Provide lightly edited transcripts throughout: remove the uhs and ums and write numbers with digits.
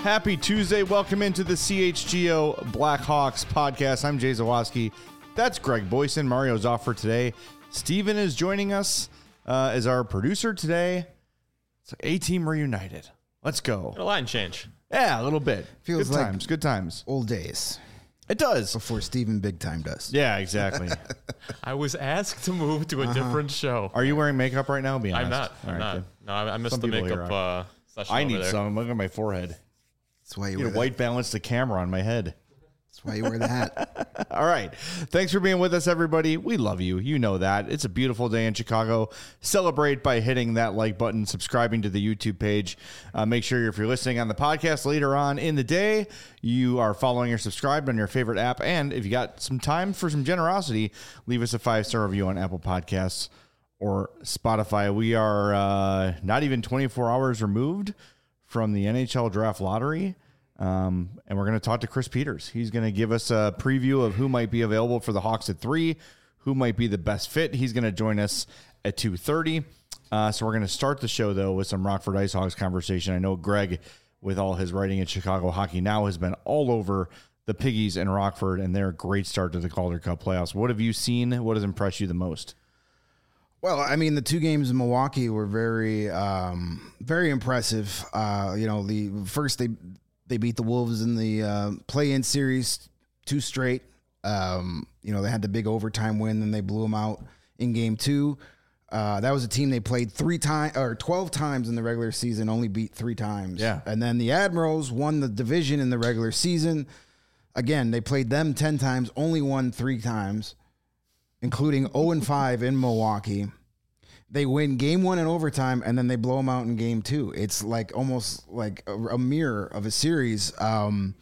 Happy Tuesday. Welcome into the CHGO Blackhawks podcast. I'm Jay Zawoski. That's Greg Boyson. Mario's off for today. Steven is joining us as our producer today. It's like A-Team reunited. Let's go. A line change. Yeah, a little bit. Feels good like times. Good times. Old days. It does. Before Steven Big Time does. Yeah, exactly. I was asked to move to a different show. Are you wearing makeup right now? Be honest. I'm not. All I'm right, not. good. No, I missed Some the people here makeup session. I over need there. some. Look at my forehead. That's why you Need wear to the, white balance the camera on my head. that's why you wear the hat. All right. Thanks for being with us, everybody. We love you. You know that. It's a beautiful day in Chicago. Celebrate by hitting that like button, subscribing to the YouTube page. Make sure if you're listening on the podcast later on in the day, you are following or subscribed on your favorite app. And if you got some time for some generosity, leave us a 5-star review on Apple Podcasts or Spotify. We are not even 24 hours removed from the NHL Draft Lottery. And we're going to talk to Chris Peters. He's going to give us a preview of who might be available for the Hawks at 3, who might be the best fit. He's going to join us at 2:30. So we're going to start the show, though, with some Rockford Ice Hawks conversation. I know Greg, with all his writing at Chicago Hockey Now, has been all over the Piggies in Rockford and their great start to the Calder Cup playoffs. What have you seen? What has impressed you the most? Well, I mean, the two games in Milwaukee were very, very impressive. The first they beat the Wolves in the play-in series 2 straight. They had the big overtime win, then they blew them out in game 2. That was a team they played 12 times in the regular season, only beat 3 times. Yeah. And then the Admirals won the division in the regular season. Again, they played them 10 times, only won 3 times, including 0-5 in Milwaukee. They win game 1 in overtime, and then they blow them out in game 2. It's like almost like a mirror of a series. The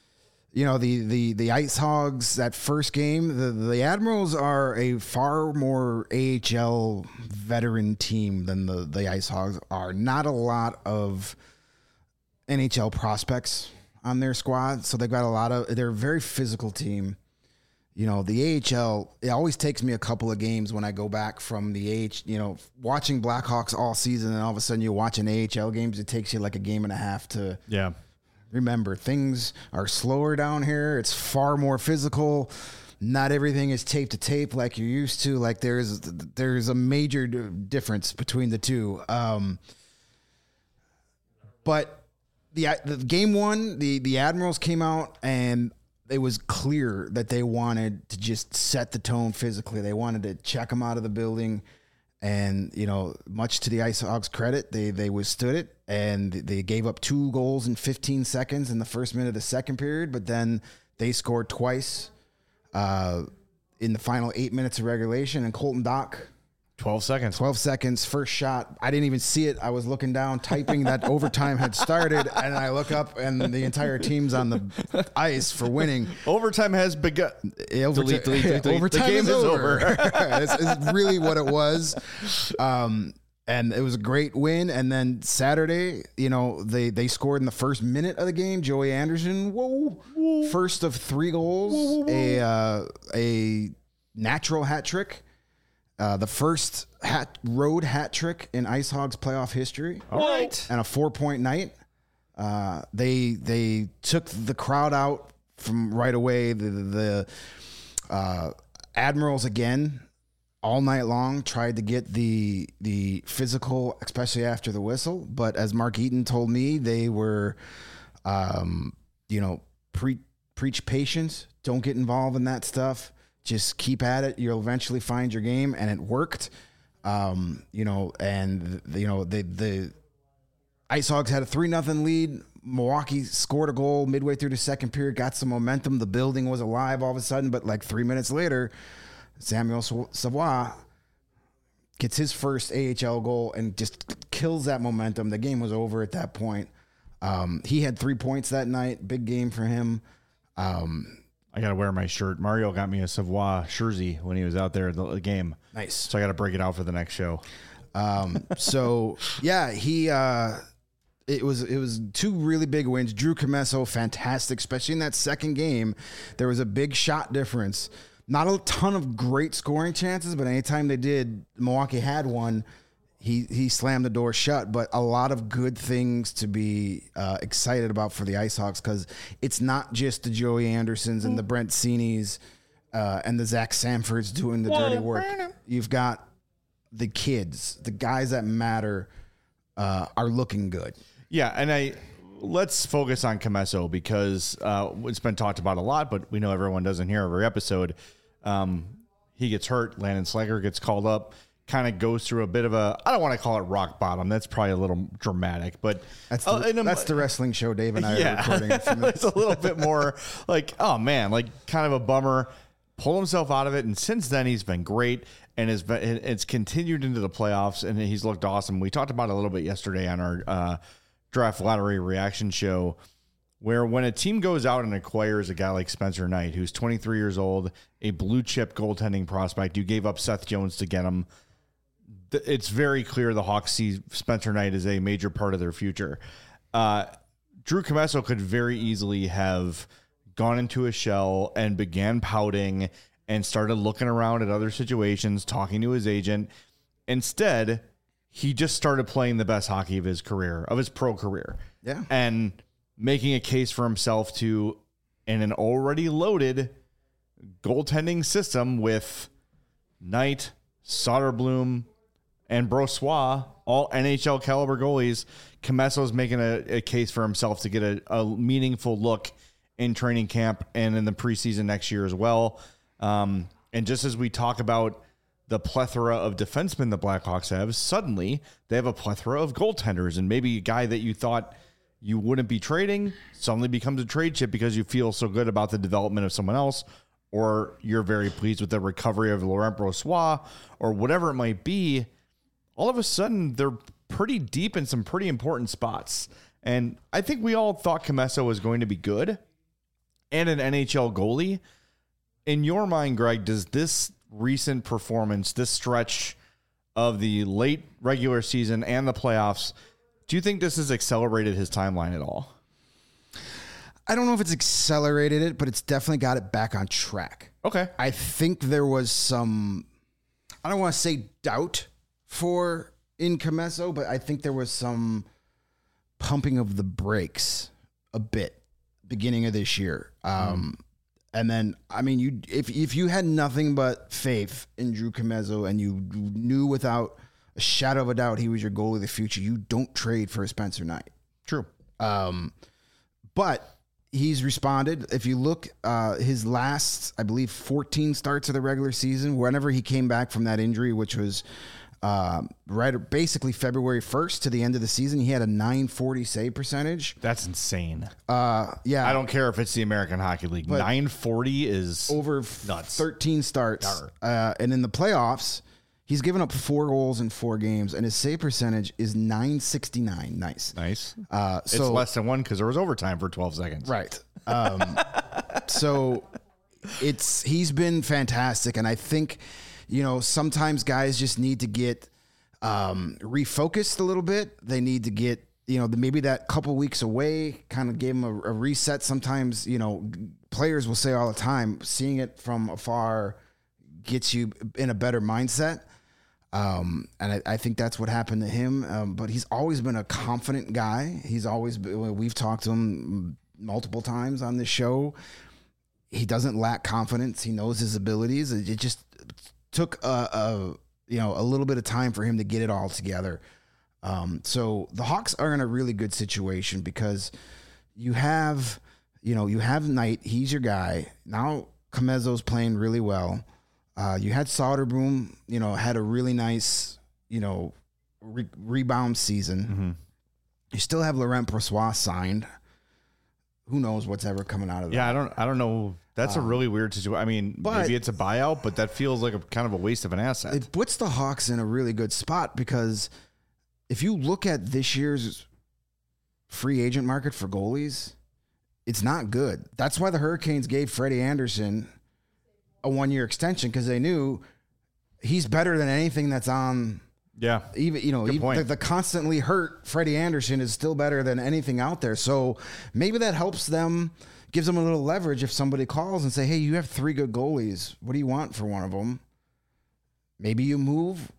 Ice Hogs, that first game, the Admirals are a far more AHL veteran team than the Ice Hogs are. Not a lot of NHL prospects on their squad, so they've got they're a very physical team. The AHL, it always takes me a couple of games when I go back from the watching Blackhawks all season, and all of a sudden you're watching AHL games. It takes you like a game and a half to remember. Things are slower down here. It's far more physical. Not everything is tape to tape like you're used to. Like there's a major difference between the two. But the game 1, the Admirals came out and it was clear that they wanted to just set the tone physically. They wanted to check them out of the building. And, much to the Ice Hogs' credit, they withstood it. And they gave up 2 goals in 15 seconds in the first minute of the second period. But then they scored twice in the final 8 minutes of regulation. And Colton Dock, 12 seconds. 12 seconds, first shot. I didn't even see it. I was looking down, typing that overtime had started, and I look up, and the entire team's on the ice for winning. Overtime has begun. Delete. Overtime the game is over. It's really what it was. And it was a great win. And then Saturday, they scored in the first minute of the game. Joey Anderson, first of 3 goals, a natural hat trick. The first road hat trick in Ice Hogs playoff history. All right. And a 4-point night. They took the crowd out from right away. The Admirals again all night long tried to get the physical, especially after the whistle. But as Mark Eaton told me, they were, preach patience. Don't get involved in that stuff. Just keep at it. You'll eventually find your game, and it worked. The Ice Hogs had a 3-0 lead. Milwaukee scored a goal midway through the second period, got some momentum. The building was alive all of a sudden, but like 3 minutes later, Samuel Savoie gets his first AHL goal and just kills that momentum. The game was over at that point. He had 3 points that night. Big game for him. I got to wear my shirt. Mario got me a Savoie jersey when he was out there at the game. Nice. So I got to break it out for the next show. It was 2 really big wins. Drew Commesso, fantastic, especially in that second game. There was a big shot difference. Not a ton of great scoring chances, but anytime they did, Milwaukee had one. he slammed the door shut, but a lot of good things to be excited about for the Ice Hawks, because it's not just the Joey Andersons and the Brent Seanies and the Zach Sanfords doing the dirty work. You've got the kids, the guys that matter, are looking good. Yeah, and let's focus on Comesso, because it's been talked about a lot, but we know everyone doesn't hear every episode. He gets hurt. Landon Slager gets called up. Kind of goes through a bit of a, I don't want to call it rock bottom. That's probably a little dramatic, but that's the wrestling show Dave and I are recording. It's a little bit more like, oh man, like kind of a bummer. Pull himself out of it, and since then he's been great, and it's continued into the playoffs, and he's looked awesome. We talked about it a little bit yesterday on our draft lottery reaction show, where when a team goes out and acquires a guy like Spencer Knight, who's 23 years old, a blue chip goaltending prospect, you gave up Seth Jones to get him. It's very clear the Hawks see Spencer Knight as a major part of their future. Drew Comesso could very easily have gone into a shell and began pouting and started looking around at other situations, talking to his agent. Instead, he just started playing the best hockey of his career, of his pro career. Yeah. And making a case for himself to, in an already loaded goaltending system with Knight, Soderblom, and Brossoit, all NHL caliber goalies, Comesso's making a case for himself to get a meaningful look in training camp and in the preseason next year as well. And just as we talk about the plethora of defensemen the Blackhawks have, suddenly they have a plethora of goaltenders, and maybe a guy that you thought you wouldn't be trading suddenly becomes a trade chip because you feel so good about the development of someone else, or you're very pleased with the recovery of Laurent Brossoit, or whatever it might be. All of a sudden, they're pretty deep in some pretty important spots. And I think we all thought Comesso was going to be good and an NHL goalie. In your mind, Greg, does this recent performance, this stretch of the late regular season and the playoffs, do you think this has accelerated his timeline at all? I don't know if it's accelerated it, but it's definitely got it back on track. Okay. I think there was some, I don't want to say doubt in Comesso, but I think there was some pumping of the brakes a bit beginning of this year. And then, I mean, if you had nothing but faith in Drew Comesso and you knew without a shadow of a doubt he was your goalie of the future, you don't trade for a Spencer Knight. True. But he's responded. If you look, his last, I believe, 14 starts of the regular season, whenever he came back from that injury, which was basically February 1st to the end of the season, he had a .940 save percentage. That's insane. Yeah. I don't care if it's the American Hockey League. .940 is over nuts. 13 starts. And in the playoffs, he's given up 4 goals in 4 games, and his save percentage is .969. Nice. It's less than 1 because there was overtime for 12 seconds. Right. So he's been fantastic, and I think, sometimes guys just need to get refocused a little bit. They need to get, maybe that couple weeks away kind of gave them a reset. Sometimes, players will say all the time, seeing it from afar gets you in a better mindset. And I think that's what happened to him. But he's always been a confident guy. We've talked to him multiple times on this show. He doesn't lack confidence. He knows his abilities. It just took a little bit of time for him to get it all together. So the Hawks are in a really good situation because you have Knight. He's your guy. Now Comesso's playing really well. You had Soderblom, had a really nice, rebound season. Mm-hmm. You still have Laurent Brossoit signed. Who knows what's ever coming out of that? Yeah, I don't know. That's a really weird situation. I mean, maybe it's a buyout, but that feels like a kind of a waste of an asset. It puts the Hawks in a really good spot because if you look at this year's free agent market for goalies, it's not good. That's why the Hurricanes gave Freddie Anderson a 1-year extension, because they knew he's better than anything that's on. Yeah. Even the constantly hurt Freddie Anderson is still better than anything out there. So maybe that helps them, gives them a little leverage if somebody calls and say, hey, you have 3 good goalies. What do you want for one of them? Maybe you move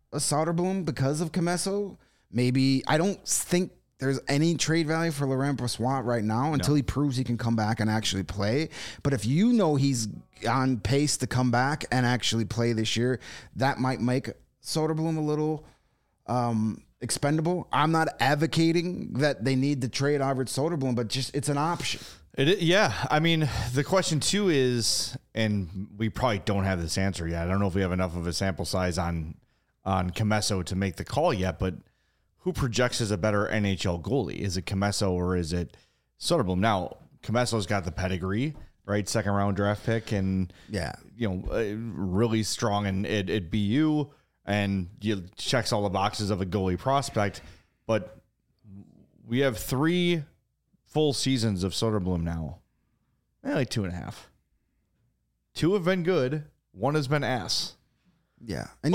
a Soderblom because of Comesso. Maybe I don't think there's any trade value for Laurent Brossoit right now until he proves he can come back and actually play. But if you know he's on pace to come back and actually play this year, that might make Soderblom a little expendable. I'm not advocating that they need to trade Arvid Soderblom, but just it's an option. Yeah. I mean, the question too is, and we probably don't have this answer yet. I don't know if we have enough of a sample size on Comesso to make the call yet, but who projects as a better NHL goalie? Is it Comesso or is it Soderblom? Now, Comesso's got the pedigree, right? 2nd round draft pick and, really strong at BU and checks all the boxes of a goalie prospect. But we have 3 full seasons of Soderblom now. Like 2.5. 2 have been good. 1 has been ass. Yeah. And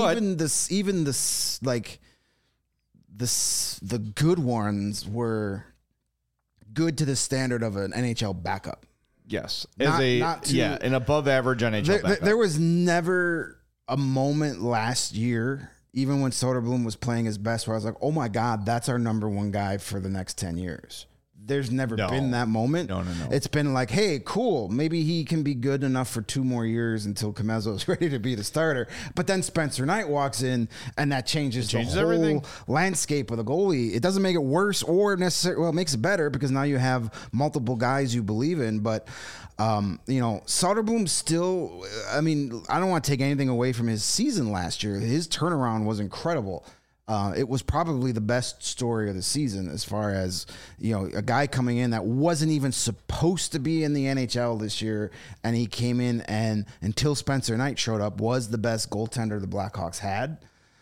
the good ones were good to the standard of an NHL backup. Yes. An above average NHL backup. There was never a moment last year, even when Soderblom was playing his best, where I was like, oh my God, that's our number 1 guy for the next 10 years. There's never been that moment. No. It's been like, hey, cool. Maybe he can be good enough for 2 more years until Comesso is ready to be the starter. But then Spencer Knight walks in, and that changes the whole everything. landscape of the goalie. It doesn't make it worse or necessarily, well, it makes it better because now you have multiple guys you believe in. But, Soderblom still, I mean, I don't want to take anything away from his season last year. His turnaround was incredible. It was probably the best story of the season as far as, a guy coming in that wasn't even supposed to be in the NHL this year. And he came in and until Spencer Knight showed up was the best goaltender the Blackhawks had.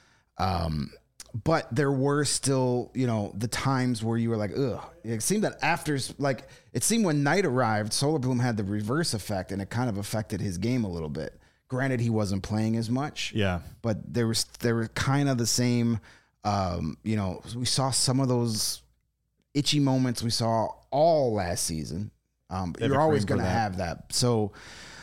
But there were still, the times where you were like, ugh. It seemed that it seemed when Knight arrived, Soderblom had the reverse effect and it kind of affected his game a little bit. Granted, he wasn't playing as much. Yeah. But there were kind of the same, we saw some of those itchy moments we saw all last season. You're always going to have that. So,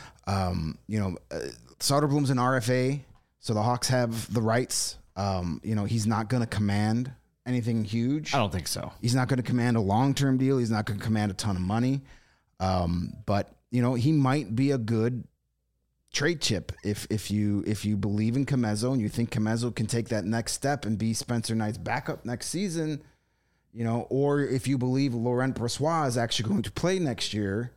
Soderblom's an RFA, so the Hawks have the rights. He's not going to command anything huge. I don't think so. He's not going to command a long-term deal. He's not going to command a ton of money. But he might be a good trade chip if you believe in Comesso and you think Comesso can take that next step and be Spencer Knight's backup next season, or if you believe Laurent Brossoit is actually going to play next year,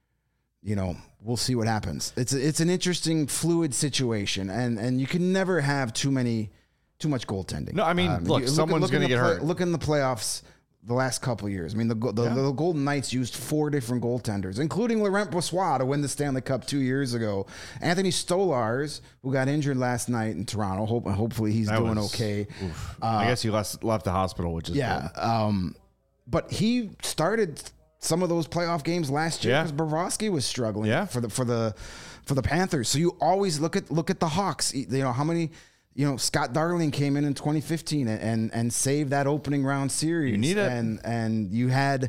we'll see what happens. It's an interesting fluid situation and you can never have too much goaltending. No, I mean, someone's going to get hurt. Look in the playoffs the last couple of years. I mean, the Golden Knights used 4 different goaltenders, including Laurent Brossoit to win the Stanley Cup 2 years ago. Anthony Stolarz, who got injured last night in Toronto. Hopefully he's doing okay. I guess he left the hospital, which is good. But he started some of those playoff games last year because Bobrovsky was struggling for the Panthers. So you always look at the Hawks. How many. Scott Darling came in 2015 and saved that opening round series. You need it. And you had,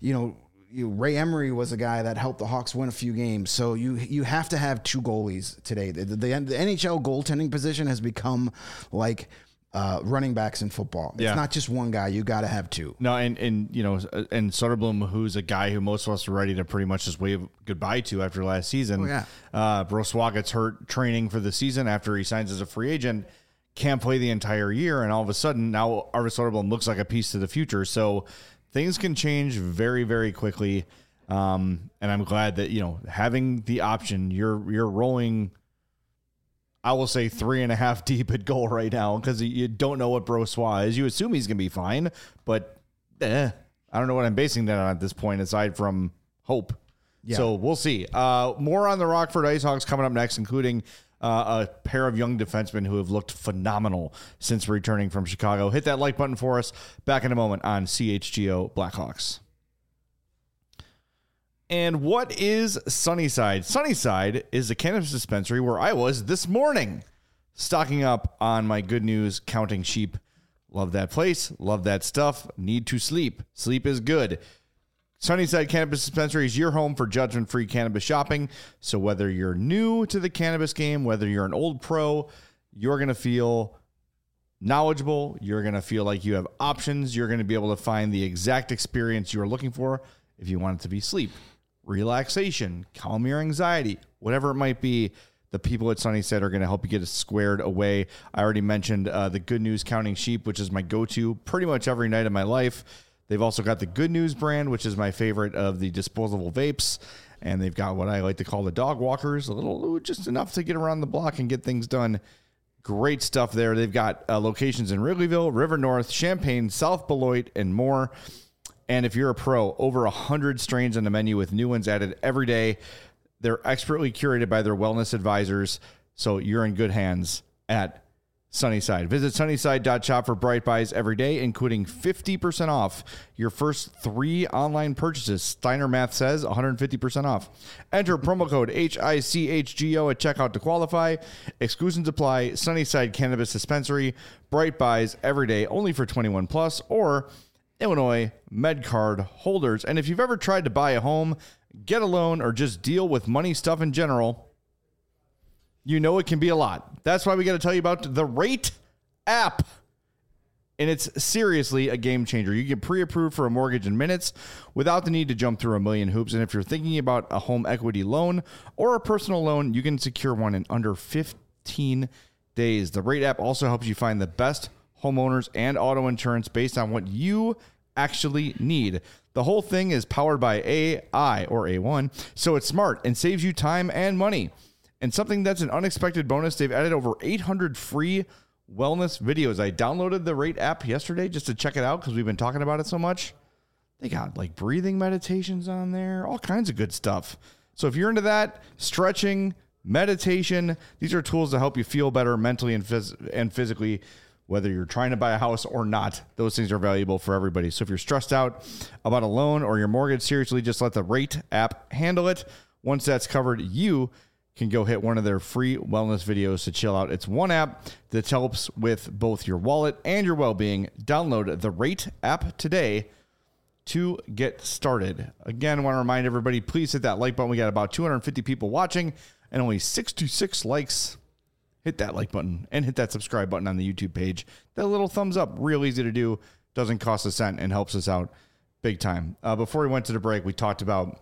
Ray Emery was a guy that helped the Hawks win a few games. So you have to have 2 goalies today. The NHL goaltending position has become like running backs in football. It's not just one guy. You got to have 2. No, and Soderblom, who's a guy who most of us are ready to pretty much just wave goodbye to after last season. Oh, yeah. Brossoit gets hurt training for the season after he signs as a free agent, can't play the entire year, and all of a sudden now Arvid Soderblom looks like a piece to the future. So things can change very, very quickly. And I'm glad that, having the option, you're rolling, I will say 3.5 deep at goal right now because you don't know what Brossoit is. You assume he's going to be fine, but I don't know what I'm basing that on at this point aside from hope. Yeah. So we'll see. More on the Rockford IceHogs coming up next, including a pair of young defensemen who have looked phenomenal since returning from Chicago. Hit that like button for us. Back in a moment on CHGO Blackhawks. And what is Sunnyside? Sunnyside is a cannabis dispensary where I was this morning, stocking up on my good news counting sheep. Love that place. Love that stuff. Need to sleep. Sleep is good. Sunnyside Cannabis Dispensary is your home for judgment-free cannabis shopping. So whether you're new to the cannabis game, whether you're an old pro, you're going to feel knowledgeable. You're going to feel like you have options. You're going to be able to find the exact experience you're looking for. If you want it to be sleep, relaxation, calm your anxiety, whatever it might be, the people at Sunnyside are going to help you get it squared away. I already mentioned the Good News Counting Sheep, which is my go-to pretty much every night of my life. They've also got the Good News brand, which is my favorite of the disposable vapes. And they've got what I like to call the dog walkers, just enough to get around the block and get things done. Great stuff there. They've got locations in Wrigleyville, River North, Champaign, South Beloit, and more. And if you're a pro, over 100 strains on the menu with new ones added every day. They're expertly curated by their wellness advisors, so you're in good hands at Sunnyside. Visit sunnyside.shop for Bright Buys every day, including 50% off your first 3 online purchases. Steiner Math says 150% off. Enter promo code HICHGO at checkout to qualify. Exclusions apply. Sunnyside Cannabis Dispensary. Bright Buys every day, only for 21 plus or Illinois MedCard holders. And if you've ever tried to buy a home, get a loan, or just deal with money stuff in general, you know it can be a lot. That's why we got to tell you about the Rate app. And it's seriously a game changer. You get pre-approved for a mortgage in minutes without the need to jump through a million hoops. And if you're thinking about a home equity loan or a personal loan, you can secure one in under 15 days. The Rate app also helps you find the best homeowners and auto insurance based on what you actually need. The whole thing is powered by AI or A1, so it's smart and saves you time and money. And something that's an unexpected bonus, they've added over 800 free wellness videos. I downloaded the Rate app yesterday just to check it out because we've been talking about it so much. They got like breathing meditations on there, all kinds of good stuff. So if you're into that, stretching, meditation, these are tools to help you feel better mentally and physically. Whether you're trying to buy a house or not, those things are valuable for everybody. So if you're stressed out about a loan or your mortgage, seriously, just let the Rate app handle it. Once that's covered, you can go hit one of their free wellness videos to chill out. It's one app that helps with both your wallet and your well-being. Download the Rate app today to get started. Again, I want to remind everybody, please hit that like button. We got about 250 people watching and only 66 likes. Hit that like button and hit that subscribe button on the YouTube page. That little thumbs up, real easy to do, doesn't cost a cent and helps us out big time. Before we went to the break, we talked about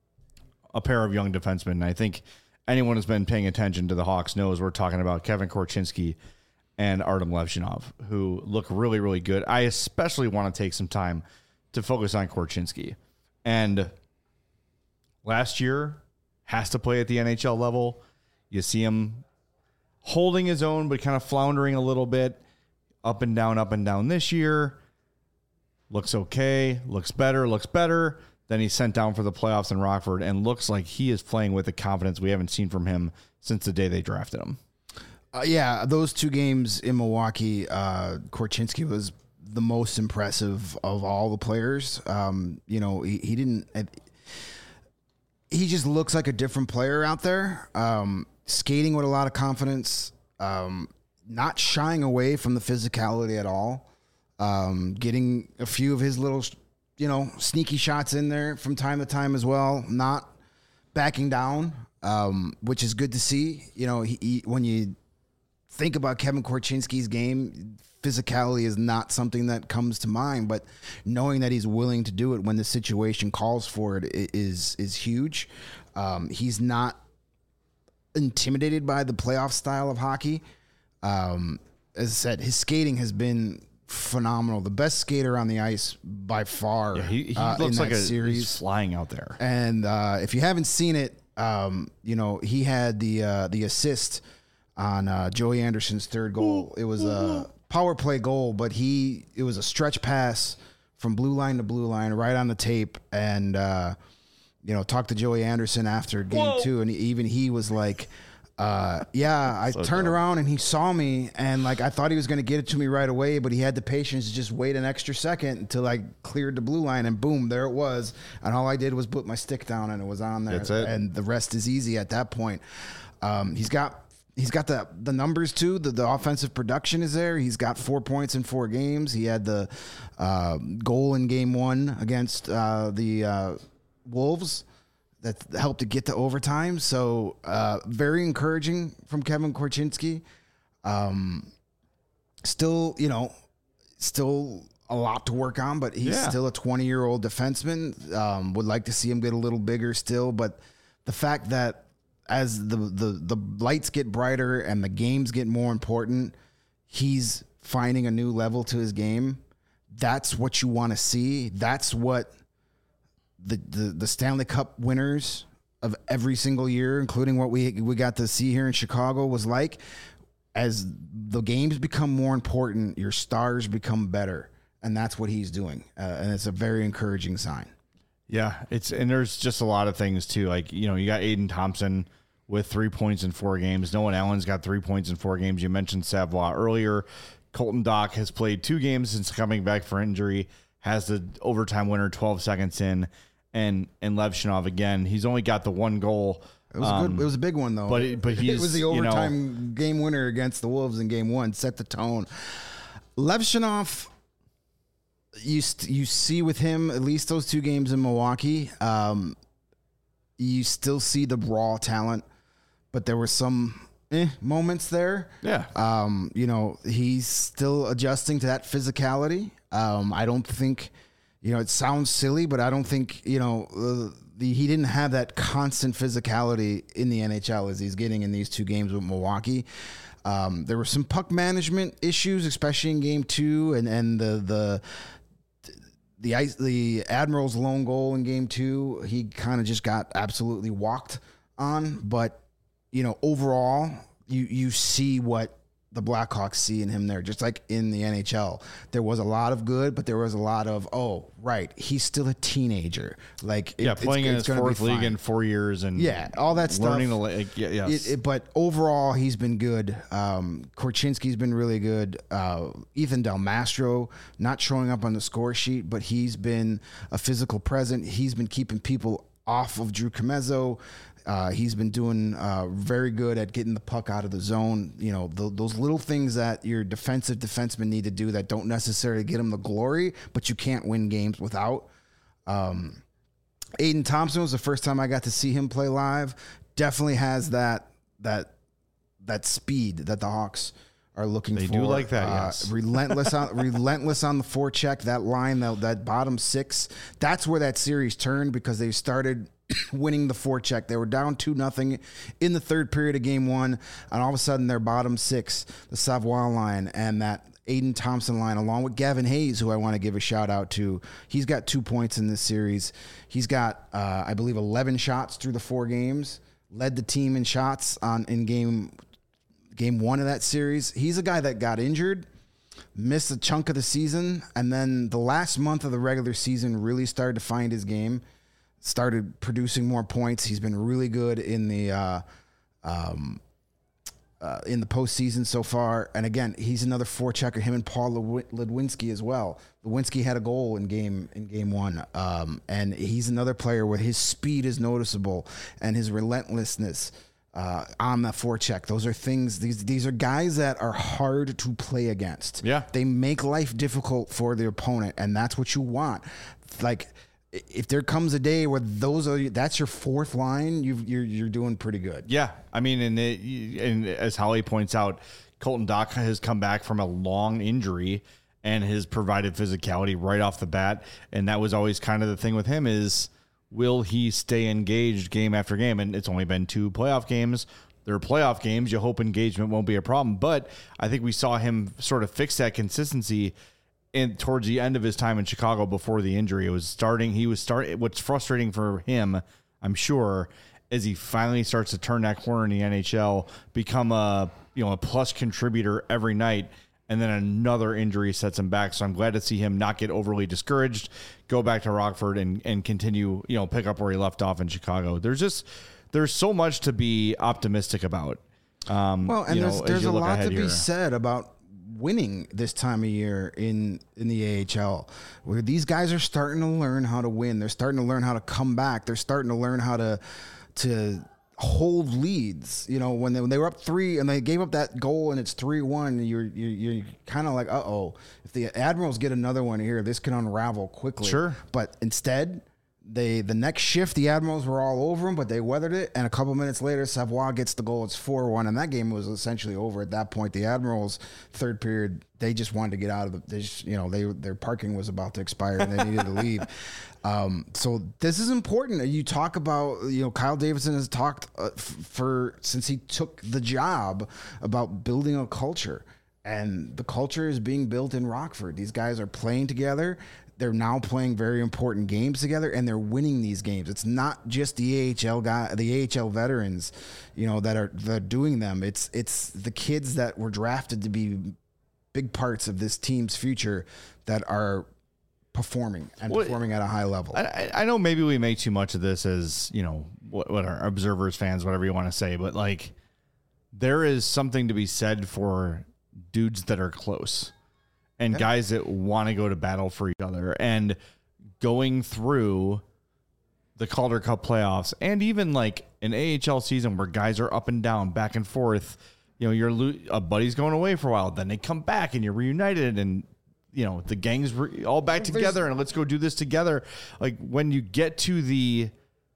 a pair of young defensemen. And I think anyone who's been paying attention to the Hawks knows we're talking about Kevin Korchinski and Artem Levshinov, who look really, really good. I especially want to take some time to focus on Korchinski. And last year, has to play at the NHL level. You see him holding his own, but kind of floundering a little bit. Up and down this year. Looks okay. Looks better. Then he's sent down for the playoffs in Rockford and looks like he is playing with the confidence we haven't seen from him since the day they drafted him. Yeah, those 2 games in Milwaukee, Korchinski was the most impressive of all the players. He didn't... He just looks like a different player out there. Skating with a lot of confidence, not shying away from the physicality at all, getting a few of his little, sneaky shots in there from time to time as well, not backing down, which is good to see. When you think about Kevin Korchinski's game, physicality is not something that comes to mind, but knowing that he's willing to do it when the situation calls for it is huge. He's not intimidated by the playoff style of hockey. As I said, his skating has been phenomenal. The best skater on the ice by far. Yeah, he looks like he's flying out there. And if you haven't seen it, he had the assist on Joey Anderson's third goal. It was a power play goal, but it was a stretch pass from blue line to blue line right on the tape. And talked to Joey Anderson after game 2, and he was like, I turned around and he saw me, and I thought he was going to get it to me right away, but he had the patience to just wait an extra second until I cleared the blue line, and boom, there it was. And all I did was put my stick down, and it was on there. That's it. And the rest is easy at that point. He's got the numbers too. The offensive production is there. He's got 4 points in 4 games. He had the goal in game 1 against the Wolves that helped to get to overtime. So very encouraging from Kevin Korchinski. still, still a lot to work on, but he's still a 20-year-old defenseman. Would like to see him get a little bigger still, but the fact that as the lights get brighter and the games get more important, he's finding a new level to his game. That's what you want to see. That's what the Stanley Cup winners of every single year, including what we got to see here in Chicago, was like. As the games become more important, your stars become better, and that's what he's doing, and it's a very encouraging sign. Yeah, and there's just a lot of things too. Like, you got Aiden Thompson with 3 points in 4 games. Noah Allen's got 3 points in 4 games. You mentioned Savoie earlier. Colton Dock has played 2 games since coming back for injury, has the overtime winner 12 seconds in, and Lev Shinov again. He's only got the 1 goal. It was good. It was a big one though. But he's, it was the overtime game winner against the Wolves in Game 1. Set the tone. Lev Shinov, you see with him at least those 2 games in Milwaukee. You still see the raw talent, but there were some moments there. Yeah. He's still adjusting to that physicality. I don't think, it sounds silly, but I don't think, he didn't have that constant physicality in the NHL as he's getting in these 2 games with Milwaukee. There were some puck management issues, especially in Game 2, and the Admirals' lone goal in Game 2. He kind of just got absolutely walked on. But overall, you see what the Blackhawks see in him there, just like in the NHL. There was a lot of good, but there was a lot of, he's still a teenager. Like, playing in his 4th league in 4 years, and all that stuff. Learning to yes. But overall, he's been good. Korchinski's been really good. Ethan Del Mastro not showing up on the score sheet, but he's been a physical presence. He's been keeping people off of Drew Comezzo. He's been doing very good at getting the puck out of the zone. Those little things that your defensemen need to do that don't necessarily get them the glory, but you can't win games without. Aiden Thompson was the first time I got to see him play live. Definitely has that speed that the Hawks are looking for. They do like that, yes. Relentless on the forecheck. That line, that bottom 6. That's where that series turned, because they started winning the forecheck. They were down 2-0 in the 3rd period of Game 1, and all of a sudden their bottom 6, the Savoie line and that Aiden Thompson line, along with Gavin Hayes, who I want to give a shout out to. He's got 2 points in this series. He's got, I believe, 11 shots through the 4 games. Led the team in shots in game 1 of that series. He's a guy that got injured, missed a chunk of the season, and then the last month of the regular season really started to find his game. Started producing more points. He's been really good in the postseason so far. And again, he's another forechecker. Him and Paul Ludwinski as well. Ludwinski had a goal in game 1, and he's another player where his speed is noticeable and his relentlessness on the forecheck. Those are things. These are guys that are hard to play against. Yeah, they make life difficult for the opponent, and that's what you want. Like, if there comes a day where that's your 4th line, you're doing pretty good. Yeah, I mean, and as Holly points out, Colton Dock has come back from a long injury and has provided physicality right off the bat. And that was always kind of the thing with him is, will he stay engaged game after game? And it's only been 2 playoff games. They're playoff games. You hope engagement won't be a problem. But I think we saw him sort of fix that consistency towards the end of his time in Chicago before the injury. What's frustrating for him, I'm sure, is he finally starts to turn that corner in the NHL, become a plus contributor every night, and then another injury sets him back. So I'm glad to see him not get overly discouraged, go back to Rockford and continue, pick up where he left off in Chicago. There's so much to be optimistic about. There's a lot to be said about winning this time of year in the AHL, where these guys are starting to learn how to win. They're starting to learn how to come back. They're starting to learn how to hold leads. When they were up 3 and they gave up that goal and it's 3-1, you're kind of like, if the Admirals get another one here, this can unravel quickly. Sure. But instead, The next shift, the Admirals were all over them, but they weathered it. And a couple minutes later, Savoie gets the goal. It's 4-1, and that game was essentially over at that point. The Admirals, third period, they just wanted to get out of the. They just, their parking was about to expire, and they needed to leave. So this is important. You talk about, Kyle Davidson has talked since he took the job about building a culture, and the culture is being built in Rockford. These guys are playing together. They're now playing very important games together, and they're winning these games. It's not just the AHL veterans, that are doing them. It's the kids that were drafted to be big parts of this team's future that are performing at a high level. I know maybe we make too much of this as, what our observers, fans, whatever you want to say, but like there is something to be said for dudes that are close. And guys that want to go to battle for each other, and going through the Calder Cup playoffs, and even like an AHL season where guys are up and down, back and forth. A buddy's going away for a while, then they come back and you're reunited, and the gang's all back together, and let's go do this together. Like when you get to the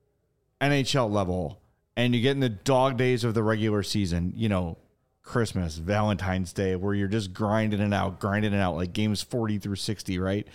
NHL level and you get in the dog days of the regular season, Christmas, Valentine's Day, where you're just grinding it out, like games 40 through 60, right?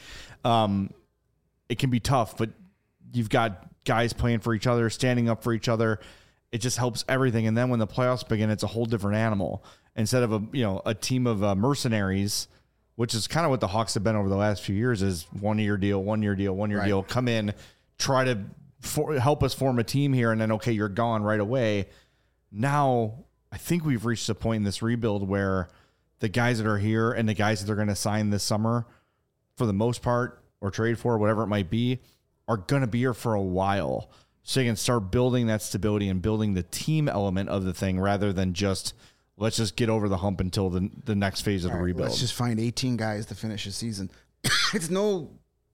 It can be tough, but you've got guys playing for each other, standing up for each other. It just helps everything. And then when the playoffs begin, it's a whole different animal. Instead of a team of mercenaries, which is kind of what the Hawks have been over the last few years, is 1 year deal, deal, come in, try to help us form a team here, and then, okay, you're gone right away. Now, I think we've reached a point in this rebuild where the guys that are here and the guys that they're going to sign this summer, for the most part, or trade for, whatever it might be, are going to be here for a while. So you can start building that stability and building the team element of the thing, rather than just, let's just get over the hump until the next phase of the rebuild. Let's just find 18 guys to finish the season. It's no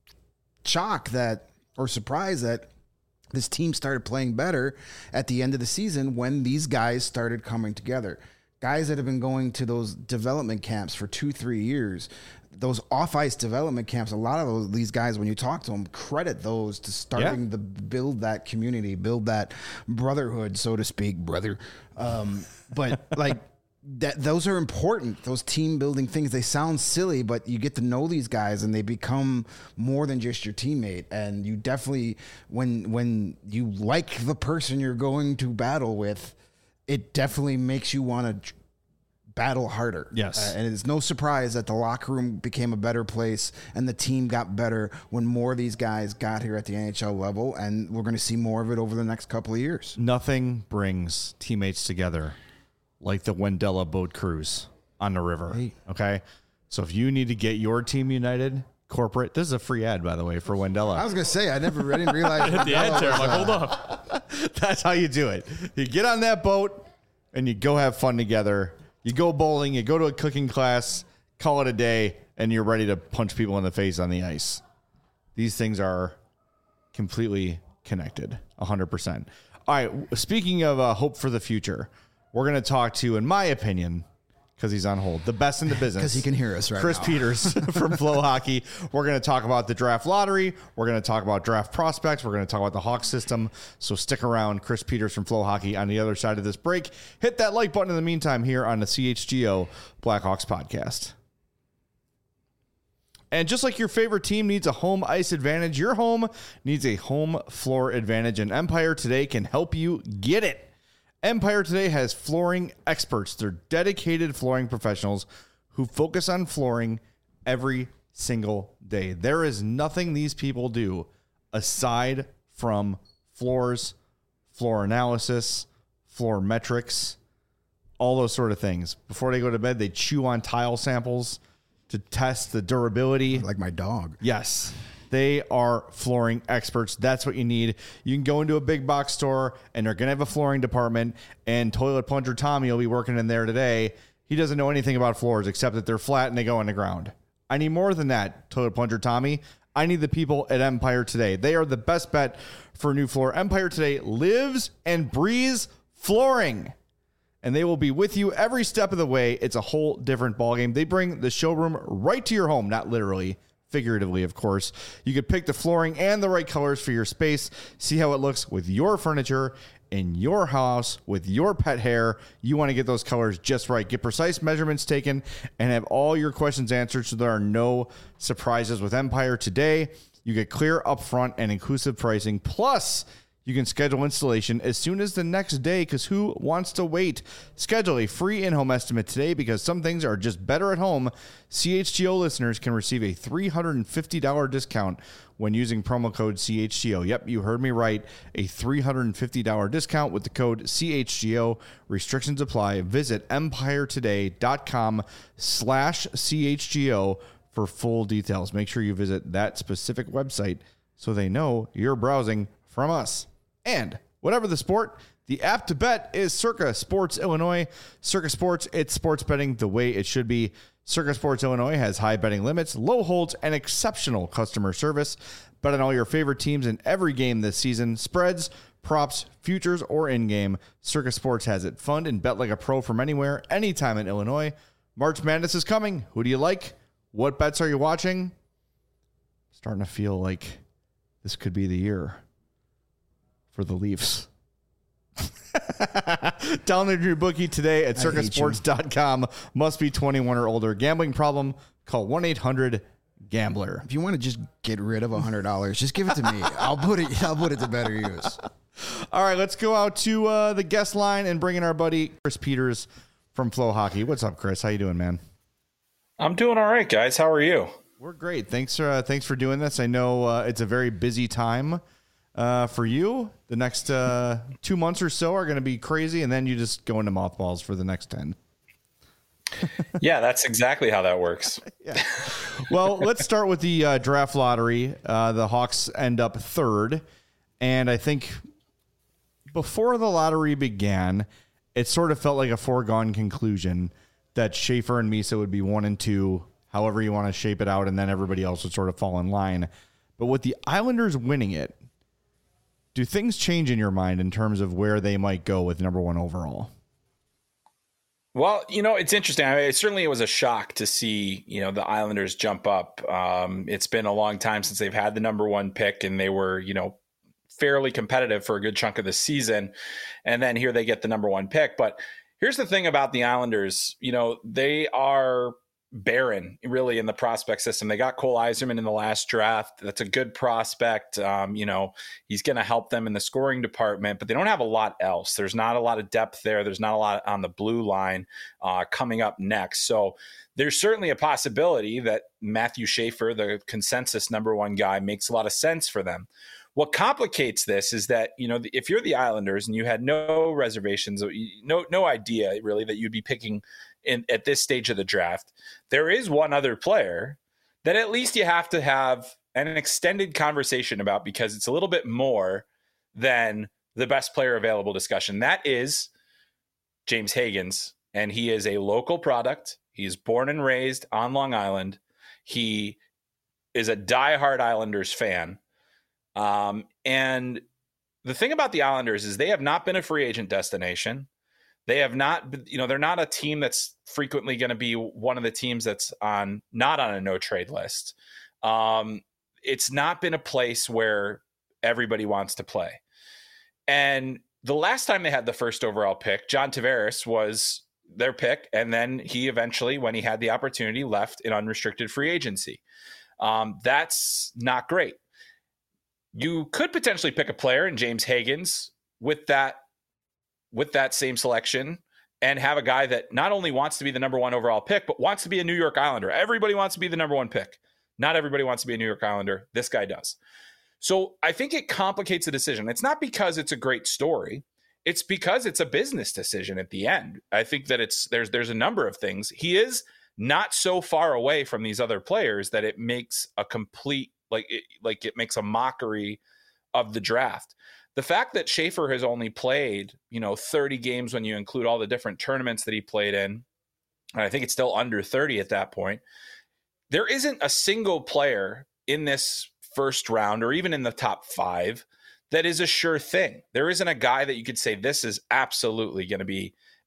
shock or surprise that this team started playing better at the end of the season when these guys started coming together. Guys that have been going to those development camps for 2-3 years, those off-ice development camps, a lot of these guys, when you talk to them, credit those to starting to build that community, build that brotherhood, so to speak, brother. But like, those are important. Those team building things, they sound silly, but you get to know these guys and they become more than just your teammate. And you definitely, when you like the person you're going to battle with, it definitely makes you want to battle harder. Yes. And it's no surprise that the locker room became a better place and the team got better when more of these guys got here at the NHL level. And we're going to see more of it over the next couple of years. Nothing brings teammates together like the Wendella boat cruise on the river. Hey. Okay. So if you need to get your team united, corporate, this is a free ad, by the way, for Wendella. I was going to say, I didn't realize. The ad there, I'm like, hold up. That's how you do it. You get on that boat and you go have fun together. You go bowling, you go to a cooking class, call it a day, and you're ready to punch people in the face on the ice. These things are completely connected, 100%. All right, speaking of hope for the future, we're going to talk to, in my opinion, because he's on hold, the best in the business. Because he can hear us right Chris now. Peters from Flow Hockey. We're going to talk about the draft lottery. We're going to talk about draft prospects. We're going to talk about the Hawks system. So stick around. Chris Peters from Flow Hockey on the other side of this break. Hit that like button in the meantime here on the CHGO Blackhawks podcast. And just like your favorite team needs a home ice advantage, your home needs a home floor advantage, and Empire Today can help you get it. Empire Today has flooring experts. They're dedicated flooring professionals who focus on flooring every single day. There is nothing these people do aside from floors, floor analysis, floor metrics, all those sort of things. Before they go to bed, they chew on tile samples to test the durability. Like my dog. Yes. They are flooring experts. That's what you need. You can go into a big box store and they're going to have a flooring department, and Toilet Plunger Tommy will be working in there today. He doesn't know anything about floors except that they're flat and they go on the ground. I need more than that, Toilet Plunger Tommy. I need the people at Empire Today. They are the best bet for a new floor. Empire Today lives and breathes flooring, and they will be with you every step of the way. It's a whole different ballgame. They bring the showroom right to your home, not literally, figuratively, of course. You could pick the flooring and the right colors for your space. See how it looks with your furniture in your house with your pet hair. You want to get those colors just right. Get precise measurements taken and have all your questions answered so there are no surprises. With Empire today, you get clear upfront and inclusive pricing. Plus, you can schedule installation as soon as the next day, because who wants to wait? Schedule a free in-home estimate today, because some things are just better at home. CHGO listeners can receive a $350 discount when using promo code CHGO. Yep, you heard me right. A $350 discount with the code CHGO. Restrictions apply. Visit empiretoday.com/CHGO for full details. Make sure you visit that specific website so they know you're browsing from us. And whatever the sport, the app to bet is Circa Sports Illinois. Circa Sports, it's sports betting the way it should be. Circa Sports Illinois has high betting limits, low holds, and exceptional customer service. Bet on all your favorite teams in every game this season. Spreads, props, futures, or in-game. Circa Sports has it. Fund and bet like a pro from anywhere, anytime in Illinois. March Madness is coming. Who do you like? What bets are you watching? Starting to feel like this could be the year for the Leafs. Download your bookie today at circasports.com. Must be 21 or older. Gambling problem? Call 1-800-GAMBLER. If you want to just get rid of $100, just give it to me. I'll put it to better use. All right, let's go out to the guest line and bring in our buddy Chris Peters from Flow Hockey. What's up, Chris? How you doing, man? I'm doing all right, guys. How are you? We're great. Thanks for doing this. I know it's a very busy time for you. The next 2 months or so are going to be crazy, and then you just go into mothballs for the next 10. Yeah, that's exactly how that works. Yeah. Well, let's start with the draft lottery. The Hawks end up third, and I think before the lottery began, it sort of felt like a foregone conclusion that Schaefer and Misa would be 1 and 2, however you want to shape it out, and then everybody else would sort of fall in line. But with the Islanders winning it, do things change in your mind in terms of where they might go with number 1 overall? Well, it's interesting. Certainly it was a shock to see, the Islanders jump up. It's been a long time since they've had the number 1 pick, and they were, fairly competitive for a good chunk of the season. And then here they get the number 1 pick. But here's the thing about the Islanders, they are barren really in the prospect system. They got Cole Eiserman in the last draft. That's a good prospect. He's going to help them in the scoring department, but they don't have a lot else. There's not a lot of depth there. There's not a lot on the blue line coming up next. So there's certainly a possibility that Matthew Schaefer, the consensus number 1 guy, makes a lot of sense for them. What complicates this is that, if you're the Islanders and you had no reservations, no idea really that you'd be picking at this stage of the draft, there is one other player that at least you have to have an extended conversation about, because it's a little bit more than the best player available discussion. That is James Higgins, and he is a local product. He's born and raised on Long Island. He is a diehard Islanders fan. And the thing about the Islanders is they have not been a free agent destination. They have not, they're not a team that's frequently going to be one of the teams that's not on a no trade list. It's not been a place where everybody wants to play. And the last time they had the first overall pick, John Tavares was their pick. And then he eventually, when he had the opportunity, left in unrestricted free agency. That's not great. You could potentially pick a player in James Higgins with that same selection and have a guy that not only wants to be the number 1 overall pick, but wants to be a New York Islander. Everybody wants to be the number 1 pick. Not everybody wants to be a New York Islander. This guy does. So I think it complicates the decision. It's not because it's a great story. It's because it's a business decision at the end. I think that there's a number of things. He is not so far away from these other players that it makes a complete, it makes a mockery of the draft. The fact that Schaefer has only played, 30 games when you include all the different tournaments that he played in, and I think it's still under 30 at that point, there isn't a single player in this first round or even in the top 5 that is a sure thing. There isn't a guy that you could say this is absolutely going to be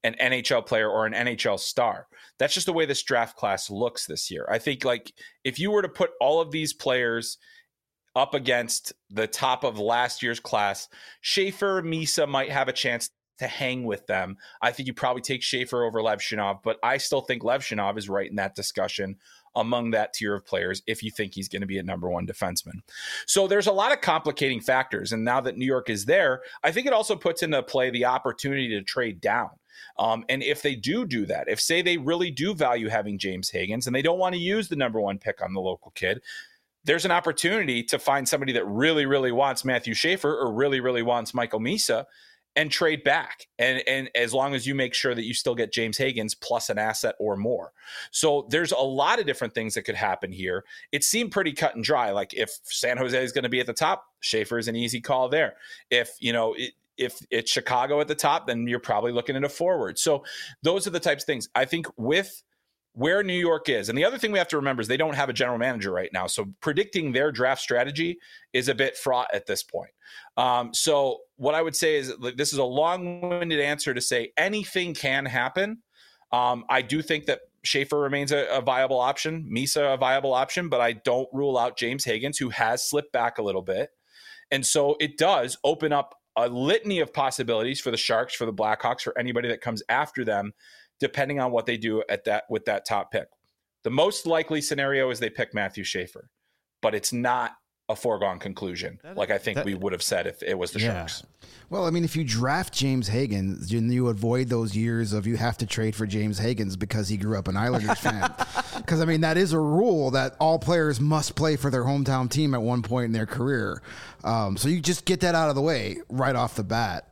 an NHL player or an NHL star. That's just the way this draft class looks this year. I think like if you were to put all of these players up against the top of last year's class, Schaefer, Misa might have a chance to hang with them. I think you probably take Schaefer over Levshunov, but I still think Levshunov is right in that discussion among that tier of players if you think he's going to be a number one defenseman. So there's a lot of complicating factors. And now that New York is there, I think it also puts into play the opportunity to trade down. And if they do that, if say they really do value having James Higgins and they don't want to use the number one pick on the local kid, there's an opportunity to find somebody that really, really wants Matthew Schaefer or really, really wants Michael Misa and trade back. And as long as you make sure that you still get James Higgins plus an asset or more. So there's a lot of different things that could happen here. It seemed pretty cut and dry. Like if San Jose is going to be at the top, Schaefer is an easy call there. If it's Chicago at the top, then you're probably looking at a forward. So those are the types of things. I think with where New York is, and the other thing we have to remember is they don't have a general manager right now. So predicting their draft strategy is a bit fraught at this point. So what I would say is this is a long-winded answer to say anything can happen. I do think that Schaefer remains a viable option, Misa a viable option, but I don't rule out James Higgins, who has slipped back a little bit. And so it does open up a litany of possibilities for the Sharks, for the Blackhawks, for anybody that comes after them, depending on what they do with that top pick. The most likely scenario is they pick Matthew Schaefer, but it's not a foregone conclusion, like I think we would have said if it was the Sharks. Well, I mean, if you draft James Higgins, then you avoid those years of you have to trade for James Higgins because he grew up an Islanders fan. Because, I mean, that is a rule that all players must play for their hometown team at one point in their career. So you just get that out of the way right off the bat.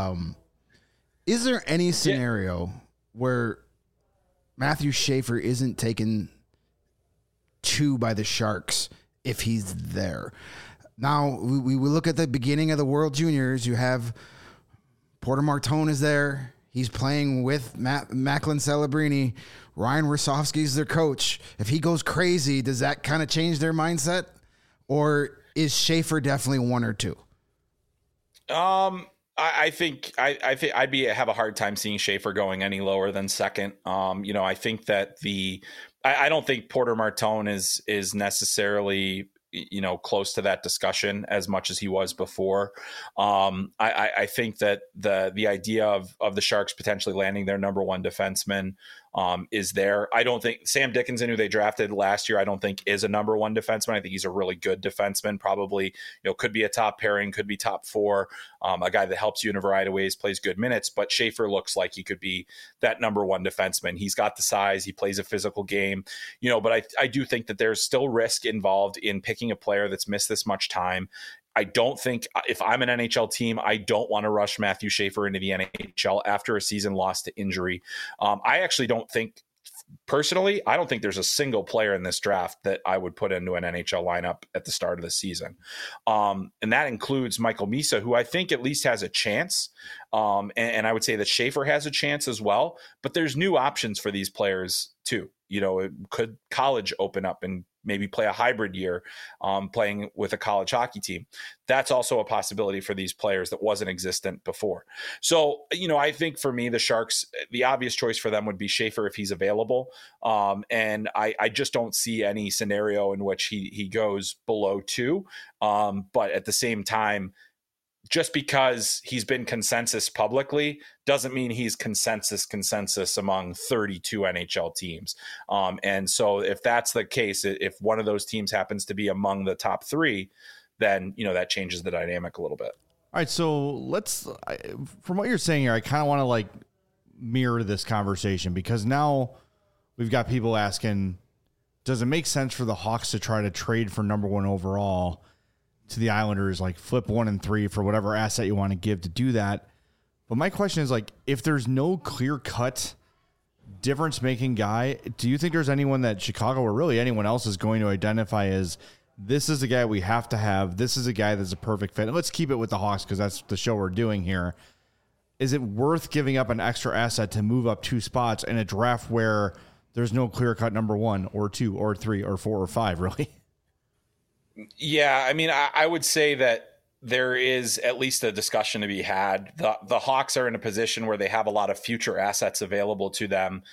Is there any scenario where Matthew Schaefer isn't taken two by the Sharks if he's there? Now, we look at the beginning of the World Juniors. You have Porter Martone is there. He's playing with Macklin Celebrini. Ryan Rosofsky's their coach. If he goes crazy, does that kind of change their mindset? Or is Schaefer definitely one or two? I think I'd have a hard time seeing Schaefer going any lower than second. I think that I don't think Porter Martone is necessarily close to that discussion as much as he was before. I think that the idea of the Sharks potentially landing their number one defenseman is there. I don't think Sam Dickinson, who they drafted last year, I don't think is a number one defenseman. I think he's a really good defenseman, probably, could be a top pairing, could be top four, a guy that helps you in a variety of ways, plays good minutes, but Schaefer looks like he could be that number one defenseman. He's got the size, he plays a physical game, but I do think that there's still risk involved in picking a player that's missed this much time. I don't think if I'm an NHL team, I don't want to rush Matthew Schaefer into the NHL after a season lost to injury. I actually don't think, personally, I don't think there's a single player in this draft that I would put into an NHL lineup at the start of the season. And that includes Michael Misa, who I think at least has a chance. And I would say that Schaefer has a chance as well. But there's new options for these players too. Could college open up and maybe play a hybrid year playing with a college hockey team? That's also a possibility for these players that wasn't existent before. So, I think for me, the Sharks, the obvious choice for them would be Schaefer if he's available. And I just don't see any scenario in which he goes below two. But at the same time, just because he's been consensus publicly doesn't mean he's consensus among 32 NHL teams. And so if that's the case, if one of those teams happens to be among the top three, then, that changes the dynamic a little bit. All right. So from what you're saying here, I kind of want to mirror this conversation because now we've got people asking, does it make sense for the Hawks to try to trade for number one overall to the Islanders, flip 1 and 3 for whatever asset you want to give to do that? But my question is, if there's no clear-cut difference-making guy, do you think there's anyone that Chicago or really anyone else is going to identify as this is the guy we have to have, this is a guy that's a perfect fit? And let's keep it with the Hawks because that's the show we're doing here. Is it worth giving up an extra asset to move up 2 spots in a draft where there's no clear-cut number 1 or 2 or 3 or 4 or 5, really? Yeah, I mean, I would say that there is at least a discussion to be had. The Hawks are in a position where they have a lot of future assets available to them.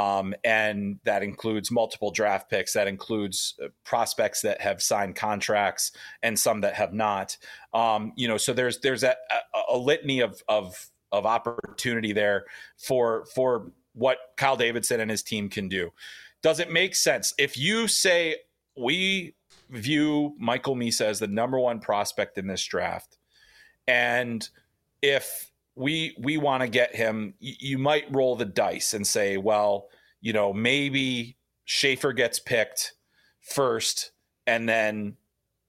And that includes multiple draft picks. That includes prospects that have signed contracts and some that have not. So there's a litany of opportunity there for what Kyle Davidson and his team can do. Does it make sense if you say we view Michael Misa as the number one prospect in this draft, and if we want to get him, you might roll the dice and say, well, maybe Schaefer gets picked first, and then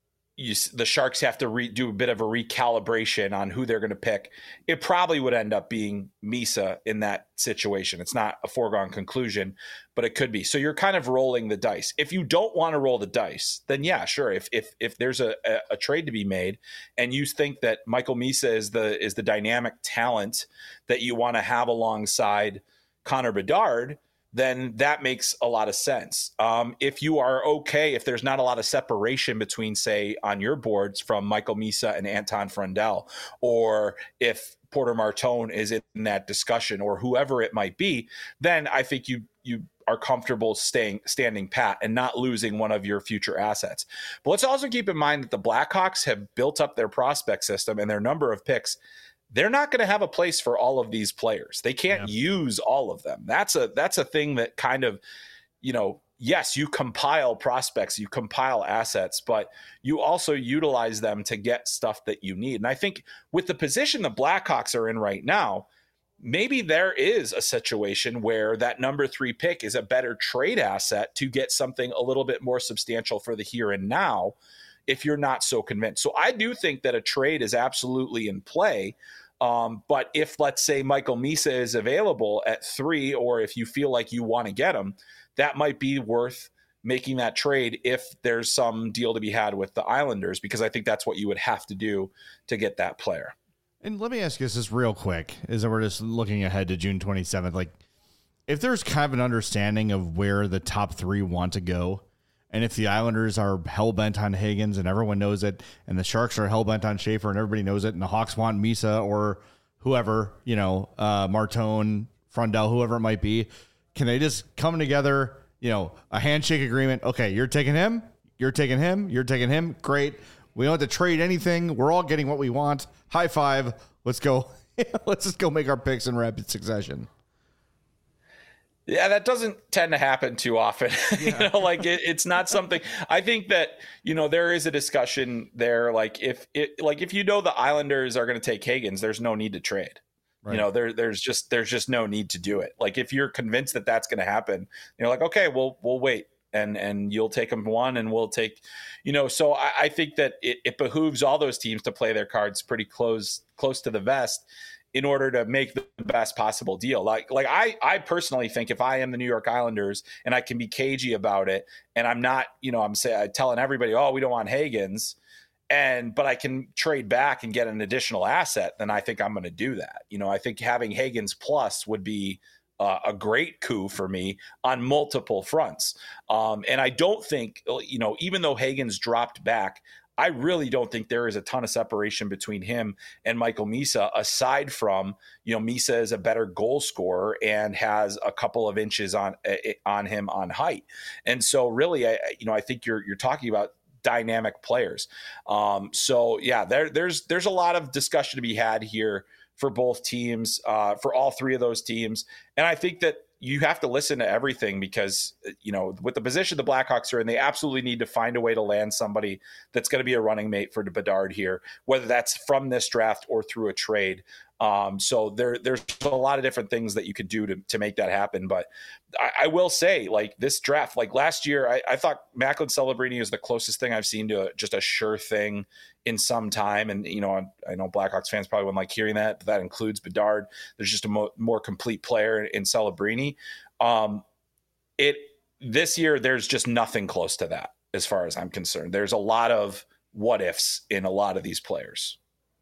the Sharks have to do a bit of a recalibration on who they're going to pick. It probably would end up being Misa in that situation. It's not a foregone conclusion, but it could be. So you're kind of rolling the dice. If you don't want to roll the dice, then yeah, sure. If there's a trade to be made and you think that Michael Misa is the dynamic talent that you want to have alongside Connor Bedard, then that makes a lot of sense. If you are okay, if there's not a lot of separation between, say, on your boards from Michael Misa and Anton Frundell, or if Porter Martone is in that discussion, or whoever it might be, then I think you are comfortable standing pat and not losing one of your future assets. But let's also keep in mind that the Blackhawks have built up their prospect system and their number of picks. They're not going to have a place for all of these players. They can't use all of them. That's a thing that kind of, yes, you compile prospects, you compile assets, but you also utilize them to get stuff that you need. And I think with the position the Blackhawks are in right now, maybe there is a situation where that number 3 pick is a better trade asset to get something a little bit more substantial for the here and now, if you're not so convinced. So I do think that a trade is absolutely in play. But if, let's say, Michael Misa is available at 3, or if you feel like you want to get him, that might be worth making that trade if there's some deal to be had with the Islanders, because I think that's what you would have to do to get that player. And let me ask you this real quick, as we're just looking ahead to June 27th. Like, if there's kind of an understanding of where the top 3 want to go, and if the Islanders are hell-bent on Higgins and everyone knows it, and the Sharks are hell-bent on Schaefer and everybody knows it, and the Hawks want Misa or whoever, Martone, Frundell, whoever it might be, can they just come together, a handshake agreement? Okay, you're taking him, you're taking him, you're taking him. Great. We don't have to trade anything. We're all getting what we want. High five. Let's go. Let's just go make our picks in rapid succession. Yeah, that doesn't tend to happen too often. Yeah. It's not something. I think that, there is a discussion there. If the Islanders are going to take Higgins, there's no need to trade. Right. There's just no need to do it. Like, if you're convinced that that's going to happen, you're like, okay, we'll wait, and you'll take him one, and we'll take, So I think that it behooves all those teams to play their cards pretty close to the vest, in order to make the best possible deal. I personally think if I am the New York Islanders and I can be cagey about it, and I'm not, I'm telling everybody, oh, we don't want Higgins, but I can trade back and get an additional asset, then I think I'm going to do that. I think having Higgins plus would be a great coup for me on multiple fronts. And I don't think, even though Higgins dropped back, I really don't think there is a ton of separation between him and Michael Misa, aside from, Misa is a better goal scorer and has a couple of inches on him on height. And so really, I think you're talking about dynamic players. So yeah, there's a lot of discussion to be had here for both teams, for all 3 of those teams. And I think that you have to listen to everything, because, with the position the Blackhawks are in, they absolutely need to find a way to land somebody that's going to be a running mate for Bedard here, whether that's from this draft or through a trade. So there's a lot of different things that you could do to make that happen. But I will say, this draft, last year, I thought Macklin Celebrini is the closest thing I've seen to just a sure thing in some time. And, I know Blackhawks fans probably wouldn't like hearing that, but that includes Bedard. There's just a more complete player in Celebrini. This year, there's just nothing close to that as far as I'm concerned. There's a lot of what ifs in a lot of these players.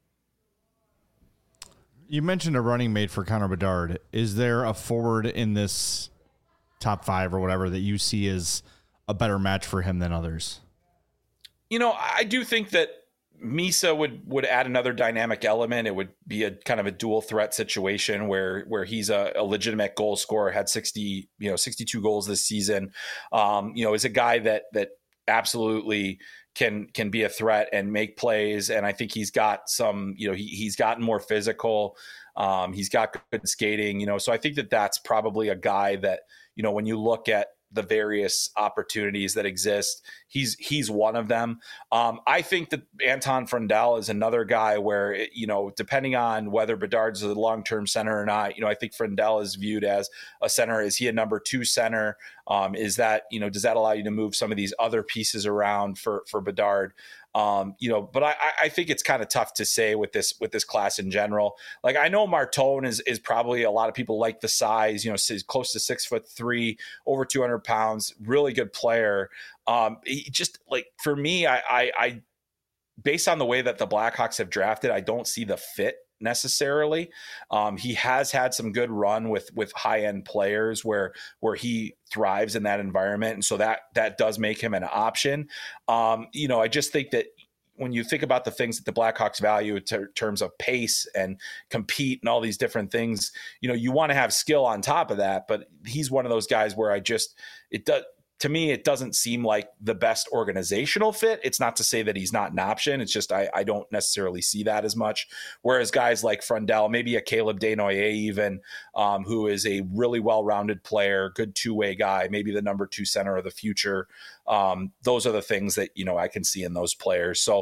You mentioned a running mate for Connor Bedard. Is there a forward in this top 5 or whatever that you see as a better match for him than others? I do think that Misa would add another dynamic element. It would be a kind of a dual threat situation where he's a legitimate goal scorer, had 62 goals this season. Is a guy that absolutely can be a threat and make plays. And I think he's got some, he's gotten more physical. He's got good skating, so I think that that's probably a guy that, when you look at the various opportunities that exist, he's one of them. I think that Anton Frundell is another guy where, depending on whether Bedard's a long-term center or not, I think Frundell is viewed as a center. Is he a number 2 center? Is that, does that allow you to move some of these other pieces around for Bedard? But I think it's kind of tough to say with this class in general. Like, I know Martone is probably, a lot of people like the size, close to 6'3", over 200 pounds, really good player. He just, like, for me, I based on the way that the Blackhawks have drafted, I don't see the fit necessarily. He has had some good run with high end players where he thrives in that environment, and so that does make him an option. I just think that when you think about the things that the Blackhawks value in terms of pace and compete and all these different things, you want to have skill on top of that. But he's one of those guys where to me, it doesn't seem like the best organizational fit. It's not to say that he's not an option. It's just I don't necessarily see that as much. Whereas guys like Frundell, maybe a Caleb Desnoyers even, who is a really well-rounded player, good two-way guy, maybe the number 2 center of the future. Those are the things that, I can see in those players. So,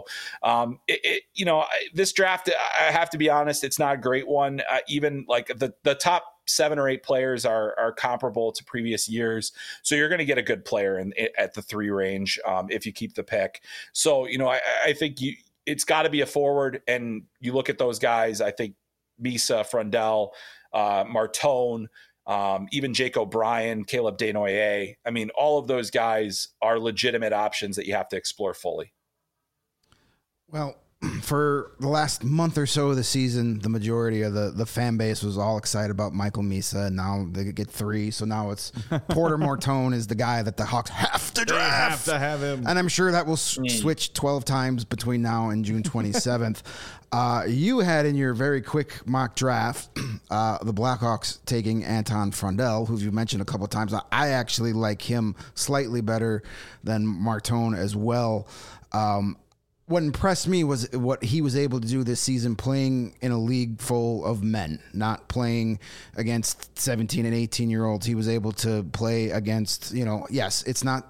this draft, I have to be honest, it's not a great one. Even like the top 7 or 8 players are comparable to previous years. So you're going to get a good player at the 3 range if you keep the pick. So, I think it's got to be a forward. And you look at those guys, I think Misa, Frundell, Martone, even Jake O'Brien, Caleb Desnoyers. I mean, all of those guys are legitimate options that you have to explore fully. Well, for the last month or so of the season, the majority of the fan base was all excited about Michael Misa, and now they get 3. So now it's Porter Martone is the guy that the Hawks have to draft. They have to have him. And I'm sure that will switch 12 times between now and June 27th. You had in your very quick mock draft the Blackhawks taking Anton Frundell, who you mentioned a couple of times. I actually like him slightly better than Martone as well. What impressed me was what he was able to do this season, playing in a league full of men, not playing against 17 and 18-year-olds. He was able to play against, yes, it's not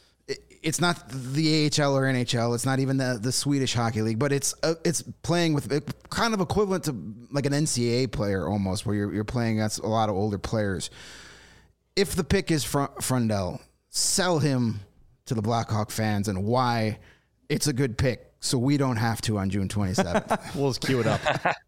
the AHL or NHL. It's not even the Swedish Hockey League, but it's playing with kind of equivalent to like an NCAA player almost, where you're playing against a lot of older players. If the pick is Frundell, sell him to the Blackhawk fans and why it's a good pick, so we don't have to on June 27th. We'll just cue it up.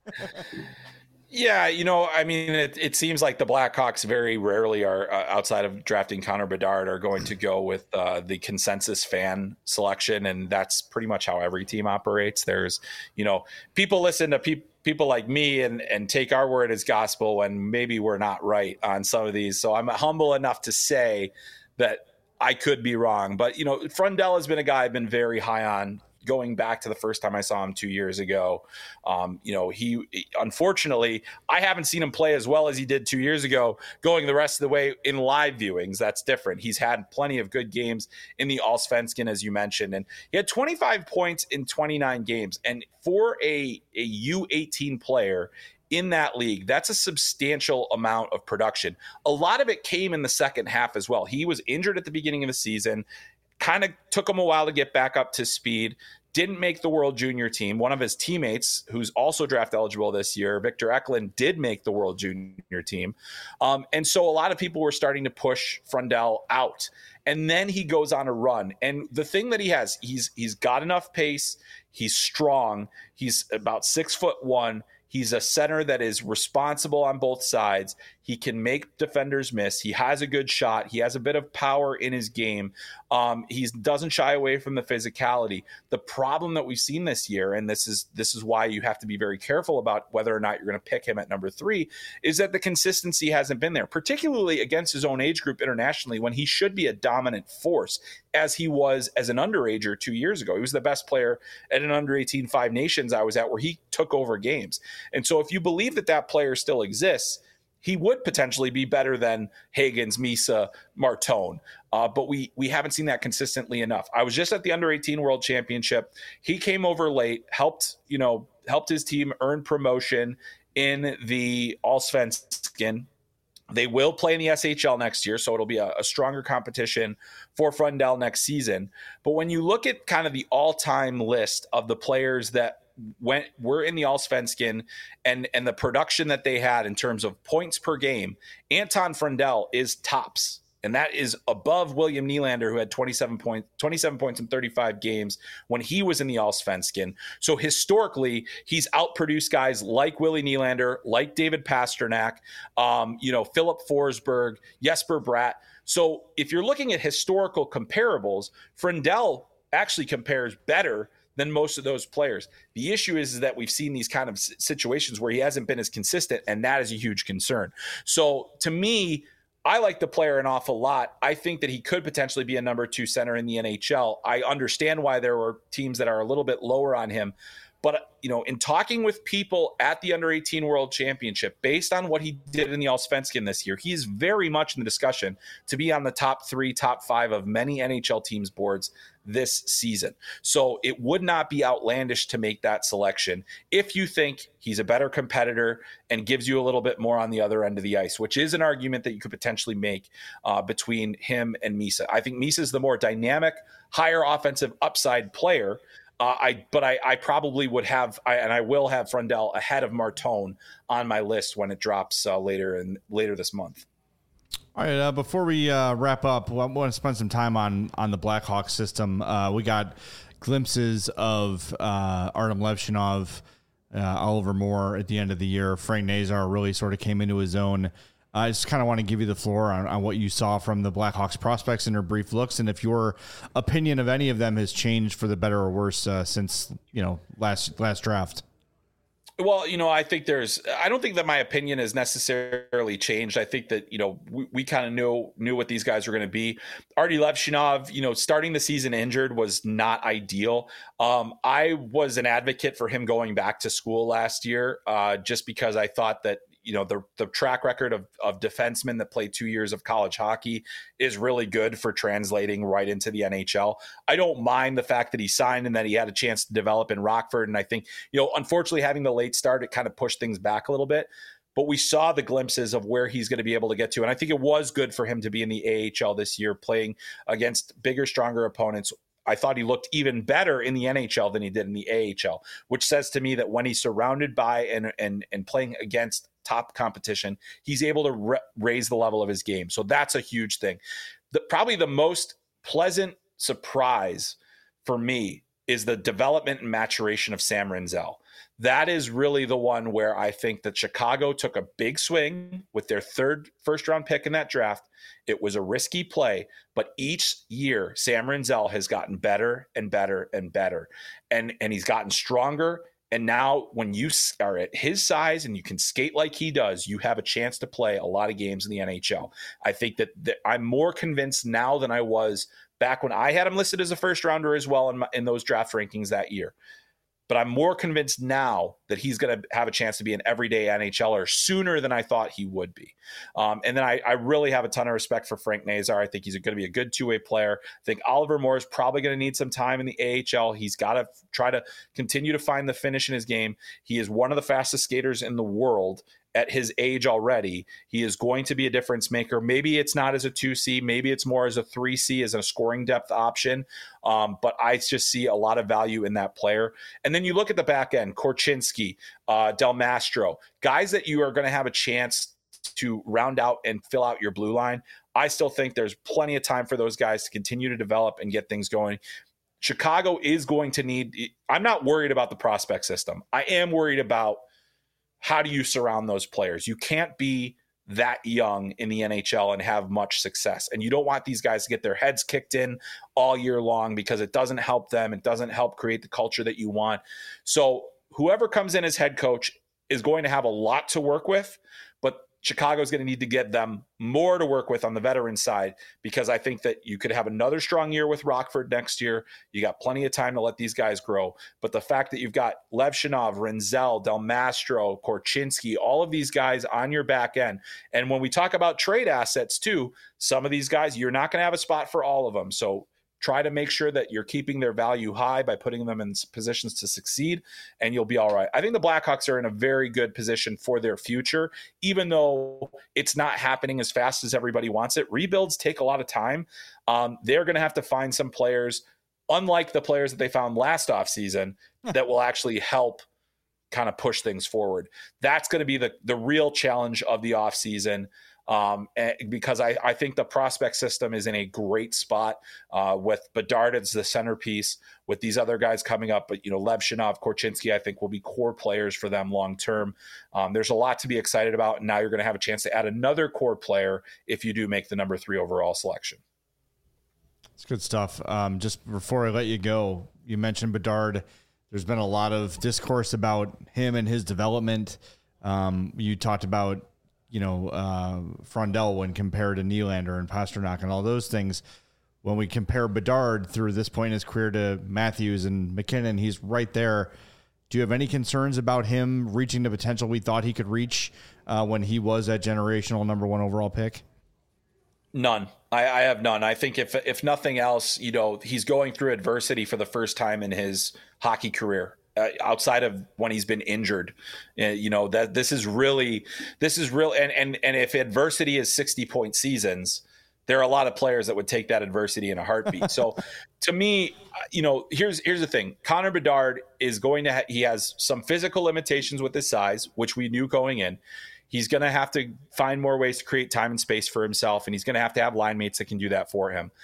Yeah, it seems like the Blackhawks very rarely are, outside of drafting Connor Bedard, are going to go with the consensus fan selection, and that's pretty much how every team operates. There's, people listen to people like me and take our word as gospel when maybe we're not right on some of these. So I'm humble enough to say that I could be wrong, but Frundell has been a guy I've been very high on going back to the first time I saw him 2 years ago. He unfortunately, I haven't seen him play as well as he did 2 years ago, going the rest of the way in live viewings. That's different. He's had plenty of good games in the Allsvenskan, as you mentioned, and he had 25 points in 29 games. And for a U18 player in that league, that's a substantial amount of production. A lot of it came in the second half as well. He was injured at the beginning of the season, kind of took him a while to get back up to speed, didn't make the World Junior team. One of his teammates, who's also draft eligible this year, Victor Eklund, did make the World Junior team. And so a lot of people were starting to push Frundell out. And then he goes on a run. And the thing that he has, he's got enough pace. He's strong. He's about 6'1". He's a center that is responsible on both sides. He can make defenders miss. He has a good shot. He has a bit of power in his game. He doesn't shy away from the physicality. The problem that we've seen this year, and this is why you have to be very careful about whether or not you're going to pick him at number 3, is that the consistency hasn't been there, particularly against his own age group internationally, when he should be a dominant force, as he was as an underager 2 years ago. He was the best player at an under-18 Five Nations I was at, where he took over games. And so if you believe that that player still exists, he would potentially be better than Hagans, Misa, Martone. But we haven't seen that consistently enough. I was just at the under-18 World Championship. He came over late, helped his team earn promotion in the Allsvenskan. They will play in the SHL next year, so it'll be a stronger competition for Frundell next season. But when you look at kind of the all-time list of the players that were in the Allsvenskan and the production that they had in terms of points per game, Anton Frundell is tops. And that is above William Nylander, who had 27 points in 35 games when he was in the Allsvenskan. So historically, he's outproduced guys like Willie Nylander, like David Pasternak, Philip Forsberg, Jesper Bratt. So if you're looking at historical comparables, Frundell actually compares better than most of those players. The issue is that we've seen these kind of situations where he hasn't been as consistent, and that is a huge concern. So to me, I like the player an awful lot. I think that he could potentially be a number 2 center in the NHL. I understand why there were teams that are a little bit lower on him. But, in talking with people at the Under-18 World Championship, based on what he did in the Allsvenskan this year, he's very much in the discussion to be on the top 3, top 5 of many NHL teams' boards this season. So it would not be outlandish to make that selection if you think he's a better competitor and gives you a little bit more on the other end of the ice, which is an argument that you could potentially make between him and Misa. I think Misa is the more dynamic, higher offensive upside player. I probably would have, and I will have Frundell ahead of Martone on my list when it drops later this month. All right, before we wrap up, I want to spend some time on the Blackhawks system. We got glimpses of Artem Levshinov, Oliver Moore at the end of the year. Frank Nazar really sort of came into his own. I just kind of want to give you the floor on what you saw from the Blackhawks prospects in their brief looks, and if your opinion of any of them has changed for the better or worse since last draft. Well, I think I don't think that my opinion has necessarily changed. I think that, we kind of knew what these guys were going to be. Artie Levshinov, starting the season injured was not ideal. I was an advocate for him going back to school last year just because I thought that, the track record of defensemen that play 2 years of college hockey is really good for translating right into the NHL. I don't mind the fact that he signed and that he had a chance to develop in Rockford. And I think, unfortunately having the late start, it kind of pushed things back a little bit. But we saw the glimpses of where he's going to be able to get to. And I think it was good for him to be in the AHL this year, playing against bigger, stronger opponents. I thought he looked even better in the NHL than he did in the AHL, which says to me that when he's surrounded by and playing against top competition, he's able to raise the level of his game. So that's a huge thing. Probably the most pleasant surprise for me is the development and maturation of Sam Rinzel. That is really the one where I think that Chicago took a big swing with their third first-round pick in that draft. It was a risky play, but each year Sam Rinzel has gotten better and better and better, and he's gotten stronger. And now when you are at his size and you can skate like he does, you have a chance to play a lot of games in the NHL. I think that I'm more convinced now than I was back when I had him listed as a first rounder as well in those draft rankings that year. But I'm more convinced now that he's going to have a chance to be an everyday NHLer sooner than I thought he would be. And then I really have a ton of respect for Frank Nazar. I think he's going to be a good two-way player. I think Oliver Moore is probably going to need some time in the AHL. He's got to try to continue to find the finish in his game. He is one of the fastest skaters in the world at his age already. He is going to be a difference maker. Maybe it's not as a 2C, maybe it's more as a 3C, as a scoring depth option. But I just see a lot of value in that player. And then you look at the back end, Korchinski, Del Mastro, guys that you are going to have a chance to round out and fill out your blue line. I still think there's plenty of time for those guys to continue to develop and get things going. Chicago is going to need, I'm not worried about the prospect system. I am worried about how do you surround those players? You can't be that young in the NHL and have much success. And you don't want these guys to get their heads kicked in all year long because it doesn't help them. It doesn't help create the culture that you want. So whoever comes in as head coach is going to have a lot to work with, but Chicago is going to need to get them more to work with on the veteran side, because I think that you could have another strong year with Rockford next year. You got plenty of time to let these guys grow. But the fact that you've got Lev Shinov, Renzel, Del Mastro, Korchinski, all of these guys on your back end. And when we talk about trade assets too, some of these guys, you're not going to have a spot for all of them. So try to make sure that you're keeping their value high by putting them in positions to succeed, and you'll be all right. I think the Blackhawks are in a very good position for their future, even though it's not happening as fast as everybody wants it. Rebuilds take a lot of time. They're going to have to find some players, unlike the players that they found last offseason, that will actually help kind of push things forward. That's going to be the real challenge of the offseason. Because I think the prospect system is in a great spot with Bedard as the centerpiece, with these other guys coming up. But, Lev Shinov, Korchinski, I think will be core players for them long term. There's a lot to be excited about. And now you're going to have a chance to add another core player if you do make the number 3 overall selection. It's good stuff. Just before I let you go, you mentioned Bedard. There's been a lot of discourse about him and his development. You talked about Frondell when compared to Nylander and Pasternak and all those things. When we compare Bedard through this point in his career to Matthews and McKinnon, he's right there. Do you have any concerns about him reaching the potential we thought he could reach when he was that generational number 1 overall pick? None. I have none. I think if nothing else, he's going through adversity for the first time in his hockey career. Outside of when he's been injured, that this is real. And if adversity is 60-point seasons, there are a lot of players that would take that adversity in a heartbeat. So to me, here's the thing. Connor Bedard is he has some physical limitations with his size, which we knew going in. He's going to have to find more ways to create time and space for himself. And he's going to have line mates that can do that for him.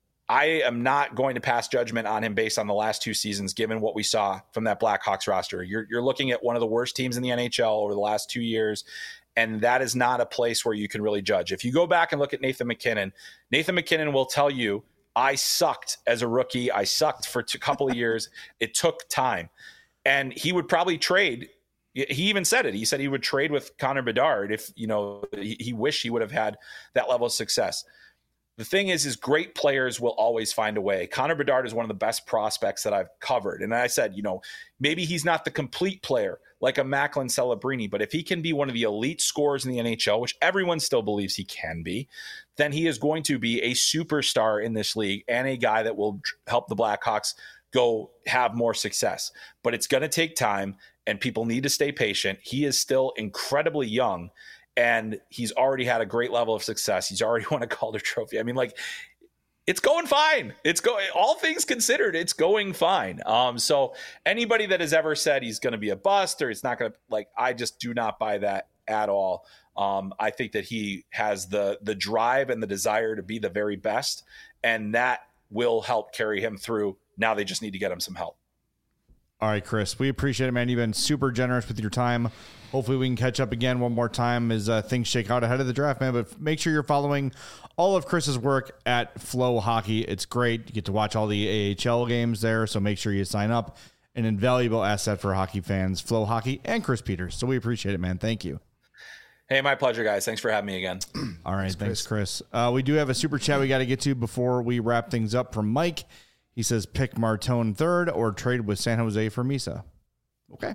I am not going to pass judgment on him based on the last 2 seasons, given what we saw from that Blackhawks roster. You're looking at one of the worst teams in the NHL over the last 2 years, and that is not a place where you can really judge. If you go back and look at Nathan McKinnon will tell you, I sucked as a rookie. I sucked for a couple of years. It took time. And he would probably trade. He even said it. He said he would trade with Connor Bedard if, he wished he would have had that level of success. The thing is great players will always find a way. Connor Bedard is one of the best prospects that I've covered. And I said, maybe he's not the complete player like a Macklin Celebrini, but if he can be one of the elite scorers in the NHL, which everyone still believes he can be, then he is going to be a superstar in this league and a guy that will help the Blackhawks go have more success. But it's going to take time, and people need to stay patient. He is still incredibly young, and he's already had a great level of success. He's already won a Calder Trophy. I mean, it's going fine. All things considered, it's going fine. So anybody that has ever said he's going to be a bust or it's not going to, I just do not buy that at all. I think that he has the drive and the desire to be the very best, and that will help carry him through. Now they just need to get him some help. All right, Chris, we appreciate it, man. You've been super generous with your time. Hopefully we can catch up again one more time as things shake out ahead of the draft, man. But make sure you're following all of Chris's work at Flow Hockey. It's great. You get to watch all the AHL games there, so make sure you sign up. An invaluable asset for hockey fans, Flow Hockey and Chris Peters. So we appreciate it, man. Thank you. Hey, my pleasure, guys. Thanks for having me again. All right, thanks, Chris. We do have a super chat we got to get to before we wrap things up from Mike. He says, pick Martone third or trade with San Jose for Misa. Okay.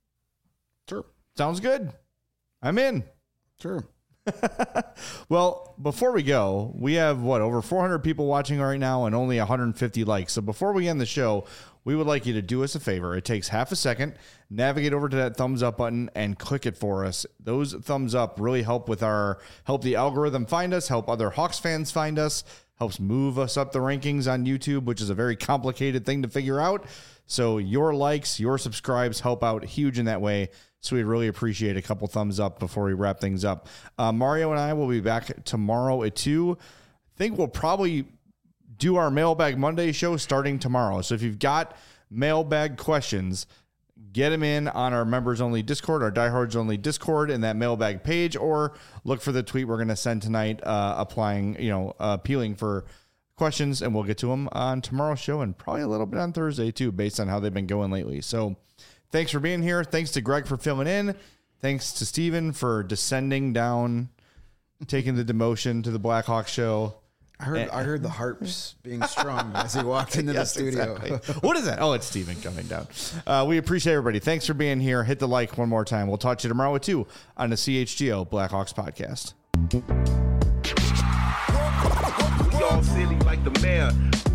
Sure. Sounds good. I'm in. Sure. Well, before we go, we have, over 400 people watching right now and only 150 likes. So before we end the show, we would like you to do us a favor. It takes half a second. Navigate over to that thumbs up button and click it for us. Those thumbs up really help the algorithm find us, help other Hawks fans find us, helps move us up the rankings on YouTube, which is a very complicated thing to figure out. So your likes, your subscribes help out huge in that way. So we'd really appreciate a couple thumbs up before we wrap things up. Mario and I will be back tomorrow at 2. I think we'll probably do our Mailbag Monday show starting tomorrow. So if you've got mailbag questions, get them in on our members only Discord, our diehards only Discord, in that mailbag page, or look for the tweet we're going to send tonight, appealing for questions, and we'll get to them on tomorrow's show and probably a little bit on Thursday too, based on how they've been going lately. So thanks for being here. Thanks to Greg for filling in. Thanks to Steven for descending down, taking the demotion to the Blackhawk show. I heard the harps being strung as he walked into the studio. Exactly. What is that? Oh, it's Steven coming down. We appreciate everybody. Thanks for being here. Hit the like one more time. We'll talk to you tomorrow too on the CHGO Blackhawks podcast. We all silly like the mayor.